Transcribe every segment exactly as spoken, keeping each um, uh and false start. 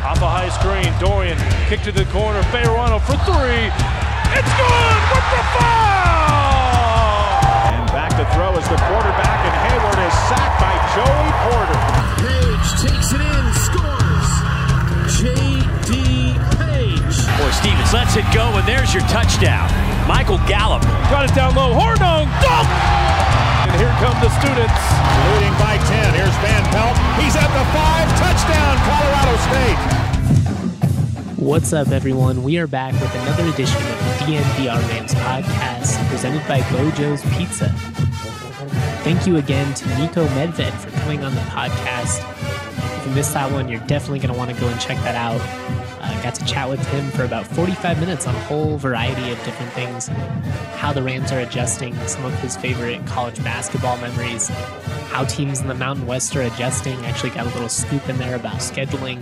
Off a high screen, Dorian kick to the corner, Bejarano for three. It's good with the foul! And back to throw is the quarterback, and Hayward is sacked by Joey Porter. Page takes it in, scores. J D. Page. Boy, Stevens lets it go, and there's your touchdown. Michael Gallup. Got it down low, Hornung, dunk! And here come the students. Leading by ten, here's Van Pelt. He's at the five, touchdown, Colorado State. What's up, everyone? We are back with another edition of the D N V R Rams podcast presented by Bojo's Pizza. Thank you again to Niko Medved for coming on the podcast. If you missed that one, you're definitely going to want to go and check that out. Uh, got to chat with him for about forty-five minutes on a whole variety of different things, how the Rams are adjusting, some of his favorite college basketball memories, how teams in the Mountain West are adjusting. Actually got a little scoop in there about scheduling.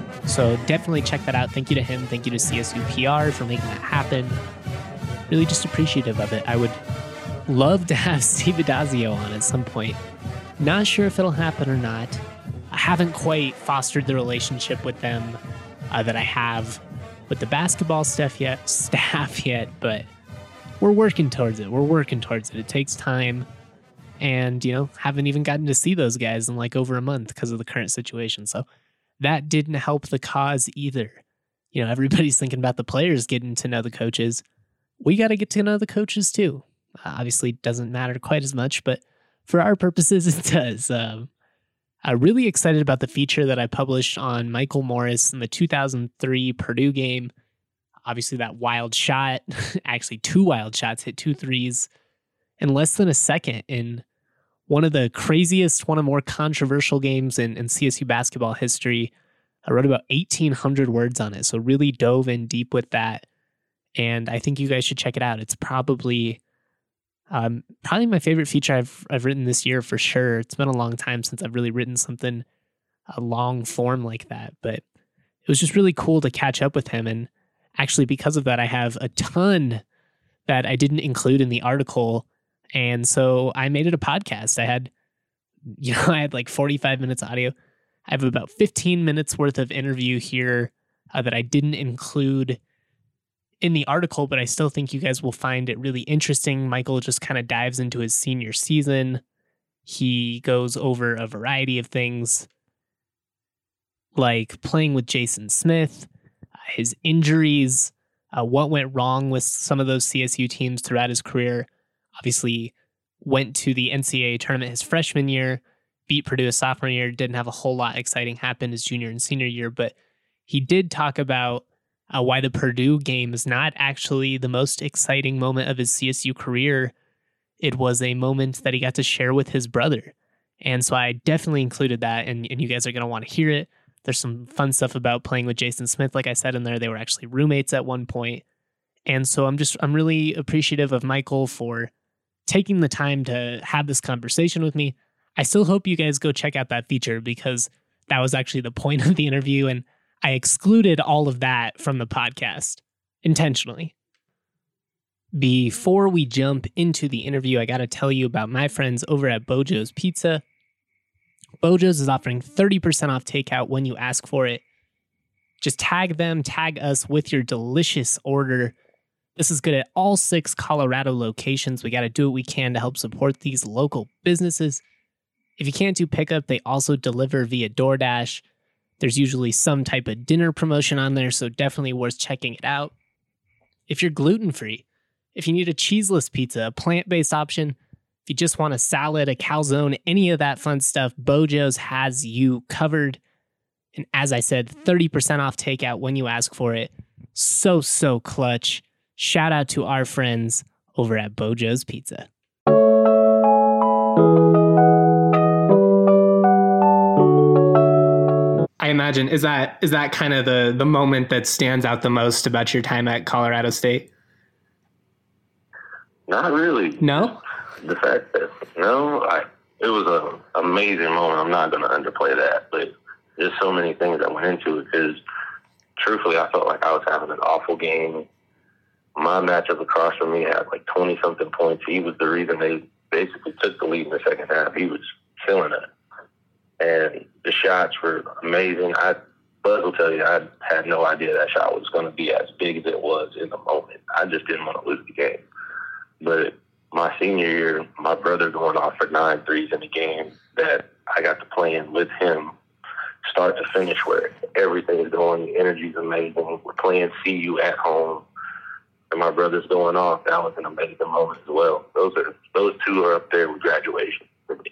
So definitely check that out. Thank you to him. Thank you to C S U P R for making that happen. Really just appreciative of it. I would love to have Steve Addazio on at some point. Not sure if it'll happen or not. I haven't quite fostered the relationship with them uh, that I have with the basketball stuff yet, staff yet, but we're working towards it. We're working towards it. It takes time. And, you know, haven't even gotten to see those guys in like over a month because of the current situation. So that didn't help the cause either. You know, everybody's thinking about the players getting to know the coaches. We got to get to know the coaches too. Uh, obviously, it doesn't matter quite as much, but for our purposes, it does. Um, I'm really excited about the feature that I published on Michael Morris in the two thousand three Purdue game. Obviously, that wild shot, actually two wild shots, hit two threes in less than a second in one of the craziest, one of the more controversial games in, in C S U basketball history. I wrote about eighteen hundred words on it, so really dove in deep with that. And I think you guys should check it out. It's probably um, probably my favorite feature I've I've written this year for sure. It's been a long time since I've really written something a long form like that, but it was just really cool to catch up with him. And actually, because of that, I have a ton that I didn't include in the article. And so I made it a podcast. I had, you know, I had like forty-five minutes audio. I have about fifteen minutes worth of interview here uh, that I didn't include in the article, but I still think you guys will find it really interesting. Michael just kind of dives into his senior season. He goes over a variety of things like playing with Jason Smith, uh, his injuries, uh, what went wrong with some of those C S U teams throughout his career. Obviously went to the N C double A tournament his freshman year, beat Purdue his sophomore year, didn't have a whole lot exciting happen his junior and senior year, but he did talk about uh, why the Purdue game is not actually the most exciting moment of his C S U career. It was a moment that he got to share with his brother. And so I definitely included that, and, and you guys are going to want to hear it. There's some fun stuff about playing with Jason Smith. Like I said in there, they were actually roommates at one point. And so I'm just, I'm really appreciative of Michael for taking the time to have this conversation with me. I still hope you guys go check out that feature because that was actually the point of the interview, and I excluded all of that from the podcast intentionally. Before we jump into the interview, I got to tell you about my friends over at Bojo's Pizza. Bojo's is offering thirty percent off takeout when you ask for it. Just tag them, tag us with your delicious order. This is good at all six Colorado locations. We got to do what we can to help support these local businesses. If you can't do pickup, they also deliver via DoorDash. There's usually some type of dinner promotion on there, so definitely worth checking it out. If you're gluten-free, if you need a cheeseless pizza, a plant-based option, if you just want a salad, a calzone, any of that fun stuff, Bojo's has you covered. And as I said, thirty percent off takeout when you ask for it. So, so clutch. Shout out to our friends over at Bojo's Pizza. I imagine, is that is that kind of the, the moment that stands out the most about your time at Colorado State? Not really. No? The fact that, no, I, it was an amazing moment. I'm not going to underplay that, but there's so many things that went into it because, truthfully, I felt like I was having an awful game. My matchup across from me had like twenty-something points. He was the reason they basically took the lead in the second half. He was killing it. And the shots were amazing. I Buzz will tell you I had no idea that shot was going to be as big as it was in the moment. I just didn't want to lose the game. But my senior year, my brother going off for nine threes in the game that I got to play in with him, start to finish, where everything's going, the energy's amazing. We're playing C U at home, and my brother's going off. That was an amazing moment as well. Those are those two are up there with graduation for me.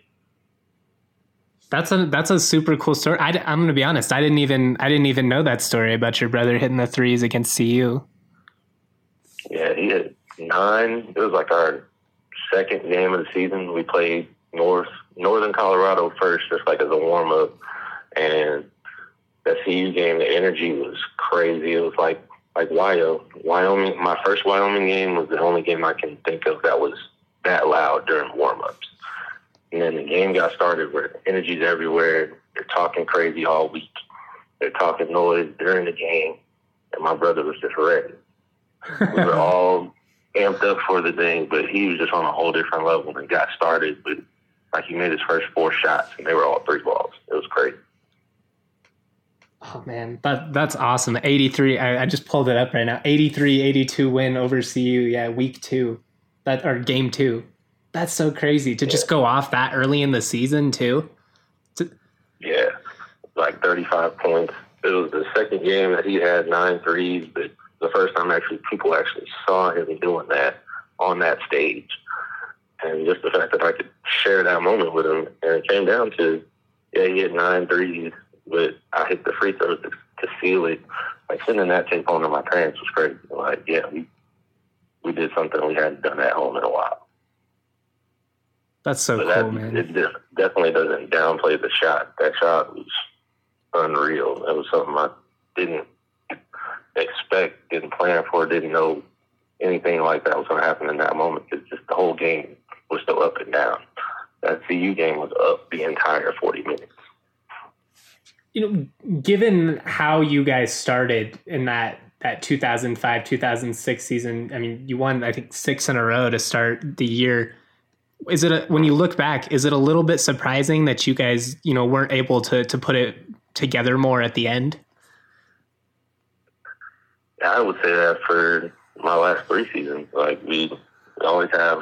That's a that's a super cool story. I, I'm going to be honest. I didn't even I didn't even know that story about your brother hitting the threes against C U. Yeah, he hit nine. It was like our second game of the season. We played North Northern Colorado first, just like as a warm up, and that C U game, the energy was crazy. It was like like Wyo. Wyoming. My first Wyoming game was the only game I can think of that was that loud during warm ups. And then the game got started where energy's everywhere. They're talking crazy all week. They're talking noise during the game. And my brother was just ready. We were all amped up for the thing, but he was just on a whole different level and got started. But like he made his first four shots, and they were all three balls. It was crazy. Oh, man, that that's awesome. eighty-three, I, I just pulled it up right now. eighty-three eighty-two win over C U, yeah, week two, that or game two. That's so crazy to yeah. just go off that early in the season, too. To- yeah, like thirty-five points. It was the second game that he had nine threes, but the first time actually people actually saw him doing that on that stage. And just the fact that I could share that moment with him, and it came down to, yeah, he had nine threes, but I hit the free throws to, to seal it. Like, sending that tape home to my parents was crazy. Like, yeah, we we did something we hadn't done at home in a while. That's so but cool, that, man. It definitely doesn't downplay the shot. That shot was unreal. That was something I didn't expect, didn't plan for, didn't know anything like that was going to happen in that moment. It's just the whole game was still up and down. That C U game was up the entire forty minutes. You know, given how you guys started in that, that two thousand five, two thousand six season, I mean, you won, I think, six in a row to start the year. Is it a, when you look back, is it a little bit surprising that you guys, you know, weren't able to to put it together more at the end? Yeah, I would say that for my last three seasons. Like, we always have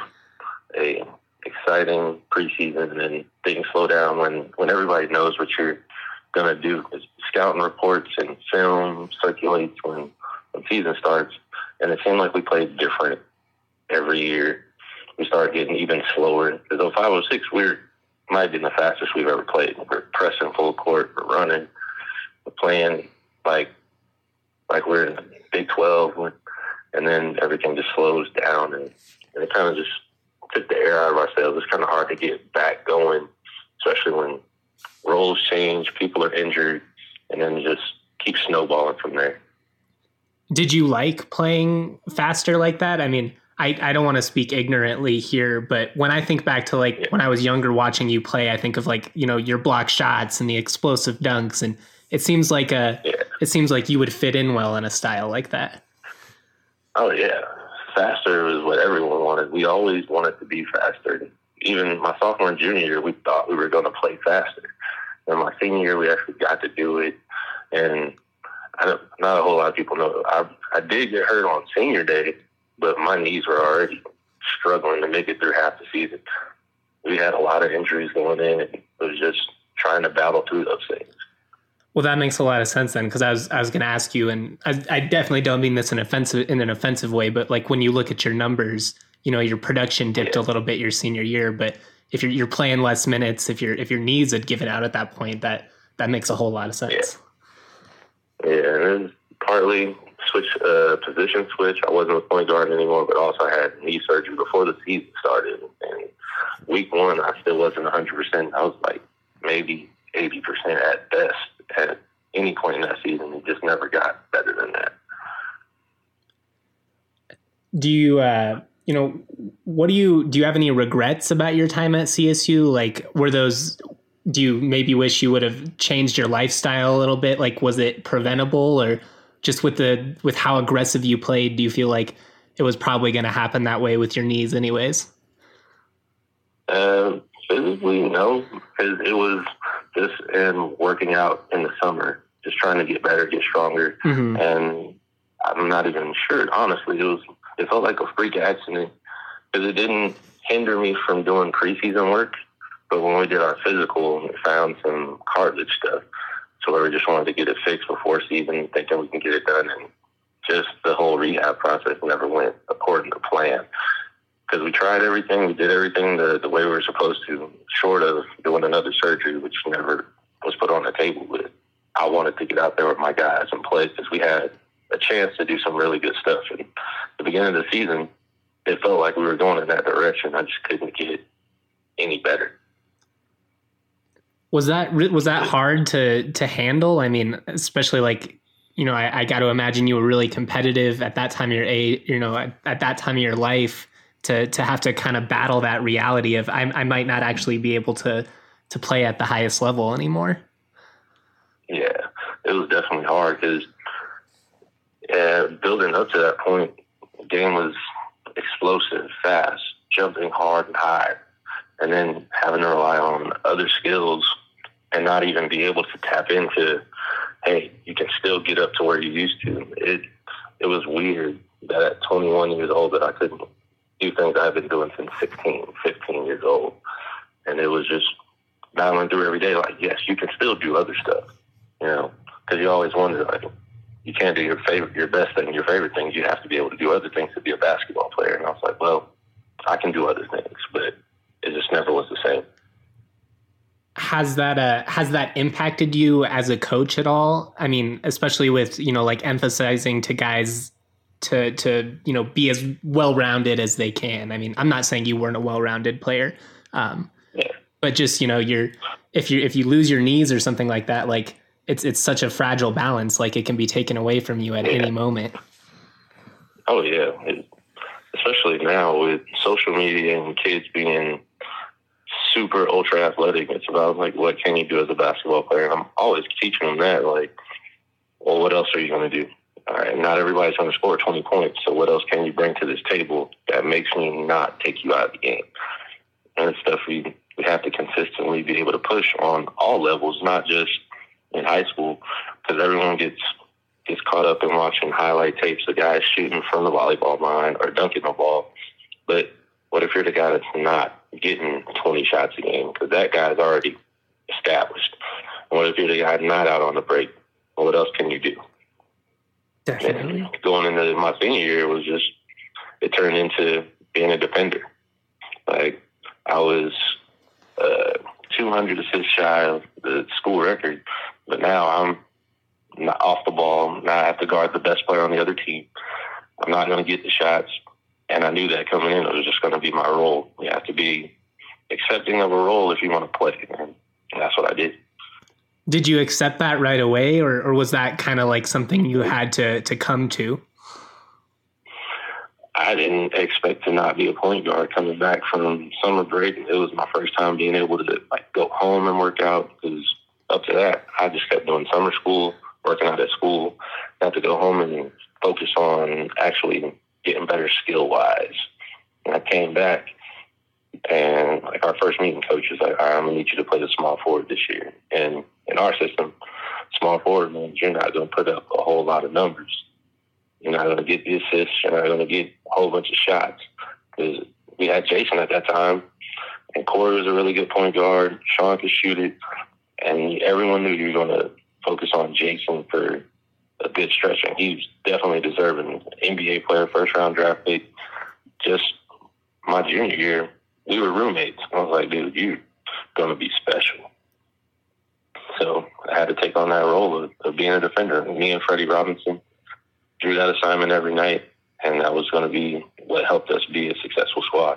a exciting preseason, and then things slow down when, when everybody knows what you're going to do. Because scouting reports and film circulates when, when season starts, and it seemed like we played different every year. We started getting even slower. Because oh five oh six, we're might have been the fastest we've ever played. We're pressing full court, we're running, we're playing like like we're in the Big twelve, and then everything just slows down, and, and it kind of just took the air out of ourselves. It's kind of hard to get back going, especially when roles change, people are injured, and then just keep snowballing from there. Did you like playing faster like that? I mean, I, I don't want to speak ignorantly here, but when I think back to like yeah. when I was younger watching you play, I think of like, you know, your block shots and the explosive dunks, and it seems like a yeah. it seems like you would fit in well in a style like that. Oh yeah, faster is what everyone wanted. We always wanted to be faster. Even my sophomore and junior year, we thought we were going to play faster. And my senior year, we actually got to do it. And I don't, not a whole lot of people know. I I did get hurt on senior day, but my knees were already struggling to make it through half the season. We had a lot of injuries going in, and it was just trying to battle through those things. Well, that makes a lot of sense then, because I was I was going to ask you, and I, I definitely don't mean this in offensive in an offensive way, but like when you look at your numbers, you know, your production dipped yeah. a little bit your senior year, but if you're you're playing less minutes, if your if your knees had given out at that point, that that makes a whole lot of sense. Yeah, yeah, and it was partly switch uh, position switch. I wasn't a point guard anymore, but also I had knee surgery before the season started. And week one, I still wasn't one hundred percent. I was like maybe eighty percent at best at any point in that season. It just never got better than that. Do you, uh, you know, what do you, do you have any regrets about your time at C S U? Like, were those, do you maybe wish you would have changed your lifestyle a little bit? Like, was it preventable, or just with the, with how aggressive you played, do you feel like it was probably going to happen that way with your knees anyways? Um, physically, no, because it was just in working out in the summer just trying to get better, get stronger. Mm-hmm. And I'm not even sure, honestly. It was it felt like a freak accident because it didn't hinder me from doing preseason work. But when we did our physical, we found some cartilage stuff. So we just wanted to get it fixed before season, thinking we can get it done. And just the whole rehab process never went according to plan. Because we tried everything, we did everything the, the way we were supposed to, short of doing another surgery, which never was put on the table. But I wanted to get out there with my guys and play because we had a chance to do some really good stuff. And at the beginning of the season, it felt like we were going in that direction. I just couldn't get any better. Was that was that hard to to handle? I mean, especially like, you know, I, I got to imagine you were really competitive at that time of your age, you know, at, at that time of your life, to to have to kind of battle that reality of I, I might not actually be able to to play at the highest level anymore. Yeah, it was definitely hard because uh, building up to that point, the game was explosive, fast, jumping hard and high, and then having to rely on other skills and not even be able to tap into, hey, you can still get up to where you used to. It it was weird that at twenty-one years old that I couldn't do things I've been doing since sixteen, fifteen years old. And it was just battling through every day like, yes, you can still do other stuff, you know, because you always wonder, like, you can't do your favorite, your best thing, your favorite things. You have to be able to do other things to be a basketball player. And I was like, well, I can do other things, but it just never was the same. Has that uh, has that impacted you as a coach at all? I mean, especially with, you know, like emphasizing to guys to to you know be as well rounded as they can. I mean, I'm not saying you weren't a well rounded player, um, yeah. but just, you know, you're if you if you lose your knees or something like that, like it's it's such a fragile balance. Like it can be taken away from you at yeah. any moment. Oh yeah, it, especially now with social media and kids being super ultra athletic. It's about like, what can you do as a basketball player? And I'm always teaching them that, like, well, what else are you going to do? All right, not everybody's going to score twenty points. So what else can you bring to this table that makes me not take you out of the game? And it's stuff we, we have to consistently be able to push on all levels, not just in high school, because everyone gets gets caught up in watching highlight tapes of guys shooting from the volleyball line or dunking the ball. But what if you're the guy that's not getting twenty shots a game? Because that guy's already established. And what if you're the guy not out on the break? Well, what else can you do? Definitely. And going into my senior year, it was just, it turned into being a defender. Like, I was uh, two hundred assists shy of the school record, but now I'm not off the ball. Now I have to guard the best player on the other team. I'm not going to get the shots. And I knew that coming in, it was just going to be my role. You have to be accepting of a role if you want to play. And that's what I did. Did you accept that right away, or, or was that kind of like something you had to, to come to? I didn't expect to not be a point guard coming back from summer break. It was my first time being able to like go home and work out, because up to that, I just kept doing summer school, working out at school. I had to go home and focus on actually getting better skill-wise. And I came back, and like our first meeting, coach was like, all right, I'm going to need you to play the small forward this year. And in our system, small forward means you're not going to put up a whole lot of numbers. You're not going to get the assists. You're not going to get a whole bunch of shots. Because we had Jason at that time, and Corey was a really good point guard. Sean could shoot it. And everyone knew you were going to focus on Jason for a good stretch. And he was definitely deserving N B A player, first-round draft pick. Just my junior year, we were roommates. I was like, dude, you're going to be special. So I had to take on that role of, of being a defender. Me and Freddie Robinson drew that assignment every night, and that was going to be what helped us be a successful squad.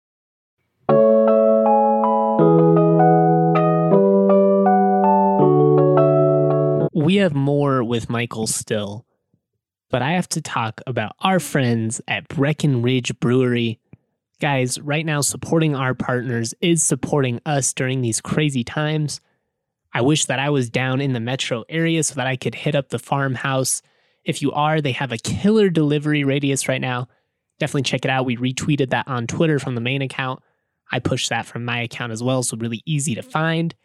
We have more with Michael still, but I have to talk about our friends at Breckenridge Brewery. Guys, right now supporting our partners is supporting us during these crazy times. I wish that I was down in the metro area so that I could hit up the farmhouse. If you are, they have a killer delivery radius right now. Definitely check it out. We retweeted that on Twitter from the main account. I pushed that from my account as well, so really easy to find.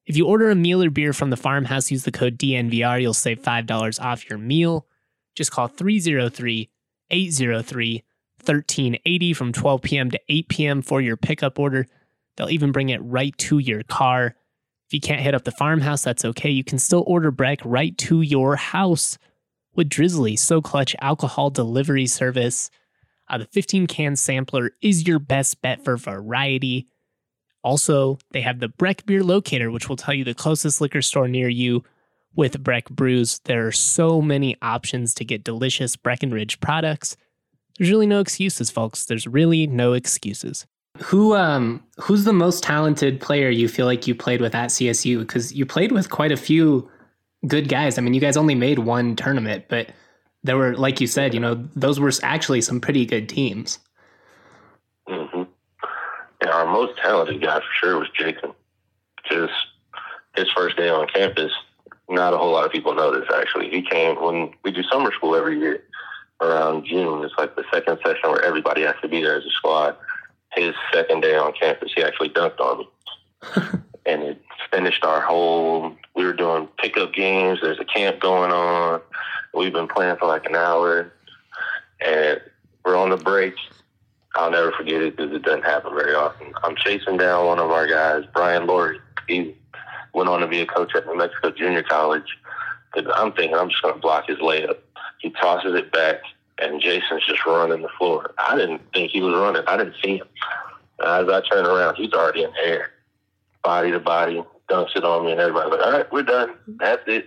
If you order a meal or beer from the Farmhouse, use the code D N V R. You'll save five dollars off your meal. Just call three oh three, eight oh three, one three eight oh from twelve p.m. to eight p.m. for your pickup order. They'll even bring it right to your car. If you can't hit up the Farmhouse, that's okay. You can still order Breck right to your house with Drizzly, So Clutch alcohol delivery service. Uh, the fifteen can sampler is your best bet for variety. Also, they have the Breck Beer Locator, which will tell you the closest liquor store near you with Breck brews. There are so many options to get delicious Breckenridge products. There's really no excuses, folks. There's really no excuses. Who um who's the most talented player you feel like you played with at C S U? Because you played with quite a few good guys. I mean, you guys only made one tournament, but there were, like you said, you know, those were actually some pretty good teams. Mm-hmm. Yeah, our most talented guy for sure was Jason. Just his first day on campus, not a whole lot of people know this, actually. He came when we do summer school every year around June. It's like the second session where everybody has to be there as a squad. His second day on campus, he actually dunked on me. And it finished our whole, we were doing pickup games. There's a camp going on. We've been playing for like an hour. And we're on the break. I'll never forget it because it doesn't happen very often. I'm chasing down one of our guys, Brian Laurie. He went on to be a coach at New Mexico Junior College. I'm thinking I'm just going to block his layup. He tosses it back, and Jason's just running the floor. I didn't think he was running. I didn't see him. As I turn around, he's already in the air. Body to body, dunks it on me, and everybody's like, all right, we're done. That's it.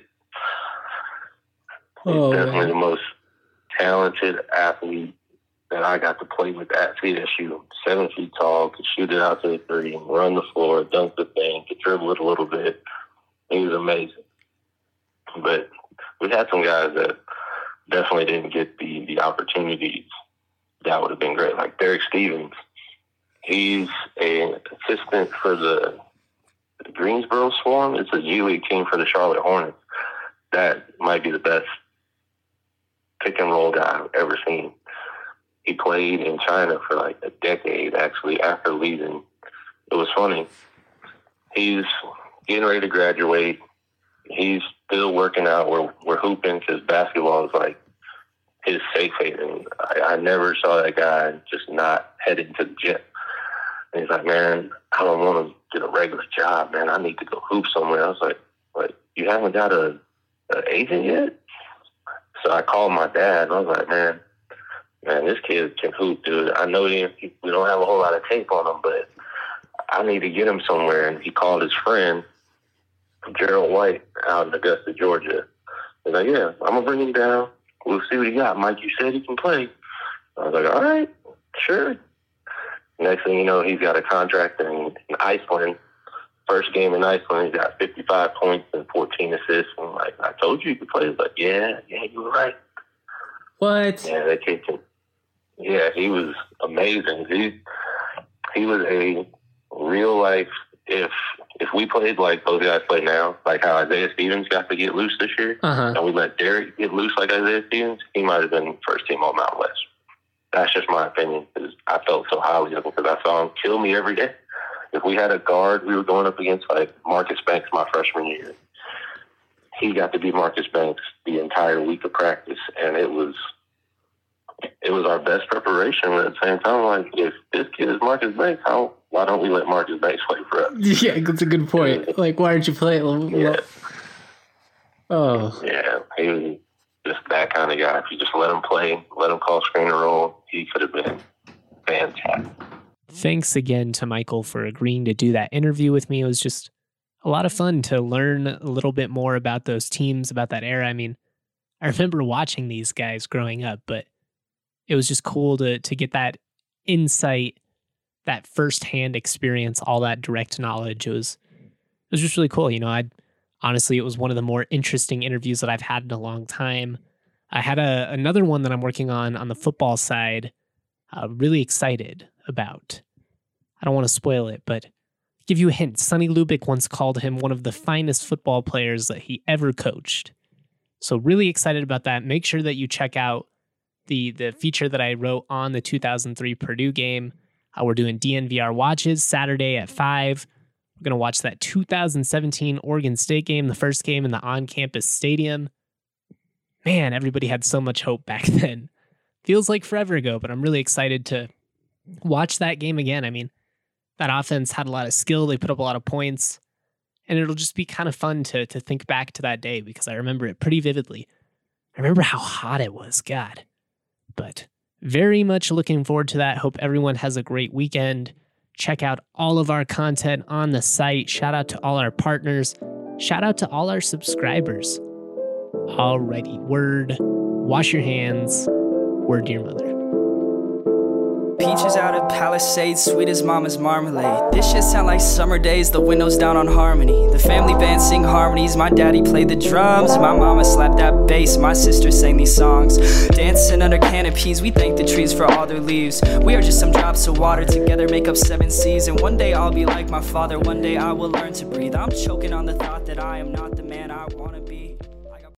Oh, he's definitely man. the most talented athlete that I got to play with at C S U. Seven feet tall, could shoot it out to the three, run the floor, dunk the thing, could dribble it a little bit. He was amazing. But we had some guys that definitely didn't get the, the opportunities that would have been great. Like Derek Stevens. He's an assistant for the Greensboro Swarm. It's a G-League team for the Charlotte Hornets. That might be the best pick and roll guy I've ever seen. He played in China for like a decade, actually, after leaving. It was funny. He's getting ready to graduate. He's still working out. We're, we're hooping because basketball is like his safe haven. I, I never saw that guy just not heading to the gym. And he's like, man, I don't want to get a regular job, man. I need to go hoop somewhere. I was like, like you haven't got a, a agent yet? So I called my dad, and I was like, man, man, this kid can hoop, dude. I know he, we don't have a whole lot of tape on him, but I need to get him somewhere. And he called his friend, Gerald White, out in Augusta, Georgia. He's like, yeah, I'm going to bring him down. We'll see what he got. Mike, you said he can play. I was like, all right, sure. Next thing you know, he's got a contract in, in Iceland. First game in Iceland, he's got fifty-five points and fourteen assists. And I'm like, I told you you could play. He's like, yeah, yeah, you were right. What? Yeah, they kicked him. Yeah, he was amazing. He he was a real life. If if we played like those guys play now, like how Isaiah Stevens got to get loose this year, Uh-huh. and we let Derek get loose like Isaiah Stevens, he might have been first team all Mountain West. That's just my opinion because I felt so highly of him because I saw him kill me every day. If we had a guard, we were going up against like Marcus Banks my freshman year. He got to be Marcus Banks the entire week of practice, and it was it was our best preparation. But at the same time, like if this kid is Marcus Banks, how why don't we let Marcus Banks play for us? Yeah, that's a good point. Like, why aren't you playing? Yeah. Oh. Yeah, he was just that kind of guy. If you just let him play, let him call screen and roll, he could have been fantastic. Thanks again to Michael for agreeing to do that interview with me. It was just a lot of fun to learn a little bit more about those teams, about that era. I mean, I remember watching these guys growing up, but it was just cool to to get that insight, that firsthand experience, all that direct knowledge. It was it was just really cool. You know, I honestly, it was one of the more interesting interviews that I've had in a long time. I had a another one that I'm working on on the football side. Uh, really excited about. I don't want to spoil it, but give you a hint. Sonny Lubick once called him one of the finest football players that he ever coached. So really excited about that. Make sure that you check out the the feature that I wrote on the two thousand three Purdue game. Uh, we're doing D N V R watches Saturday at five. We're going to watch that two thousand seventeen Oregon State game, the first game in the on-campus stadium. Man, everybody had so much hope back then. Feels like forever ago, but I'm really excited to watch that game again. I mean, that offense had a lot of skill. They put up a lot of points. And it'll just be kind of fun to to think back to that day because I remember it pretty vividly. I remember how hot it was, God. But very much looking forward to that. Hope everyone has a great weekend. Check out all of our content on the site. Shout out to all our partners. Shout out to all our subscribers. Alrighty, word. Wash your hands. Word to your mother. Peaches out of Palisades, sweet as mama's marmalade. This shit sound like summer days, the windows down on Harmony. The family band sing harmonies, my daddy played the drums. My mama slapped that bass, my sister sang these songs. Dancing under canopies, we thank the trees for all their leaves. We are just some drops of water, together make up seven seas. And one day I'll be like my father, one day I will learn to breathe. I'm choking on the thought that I am not the man I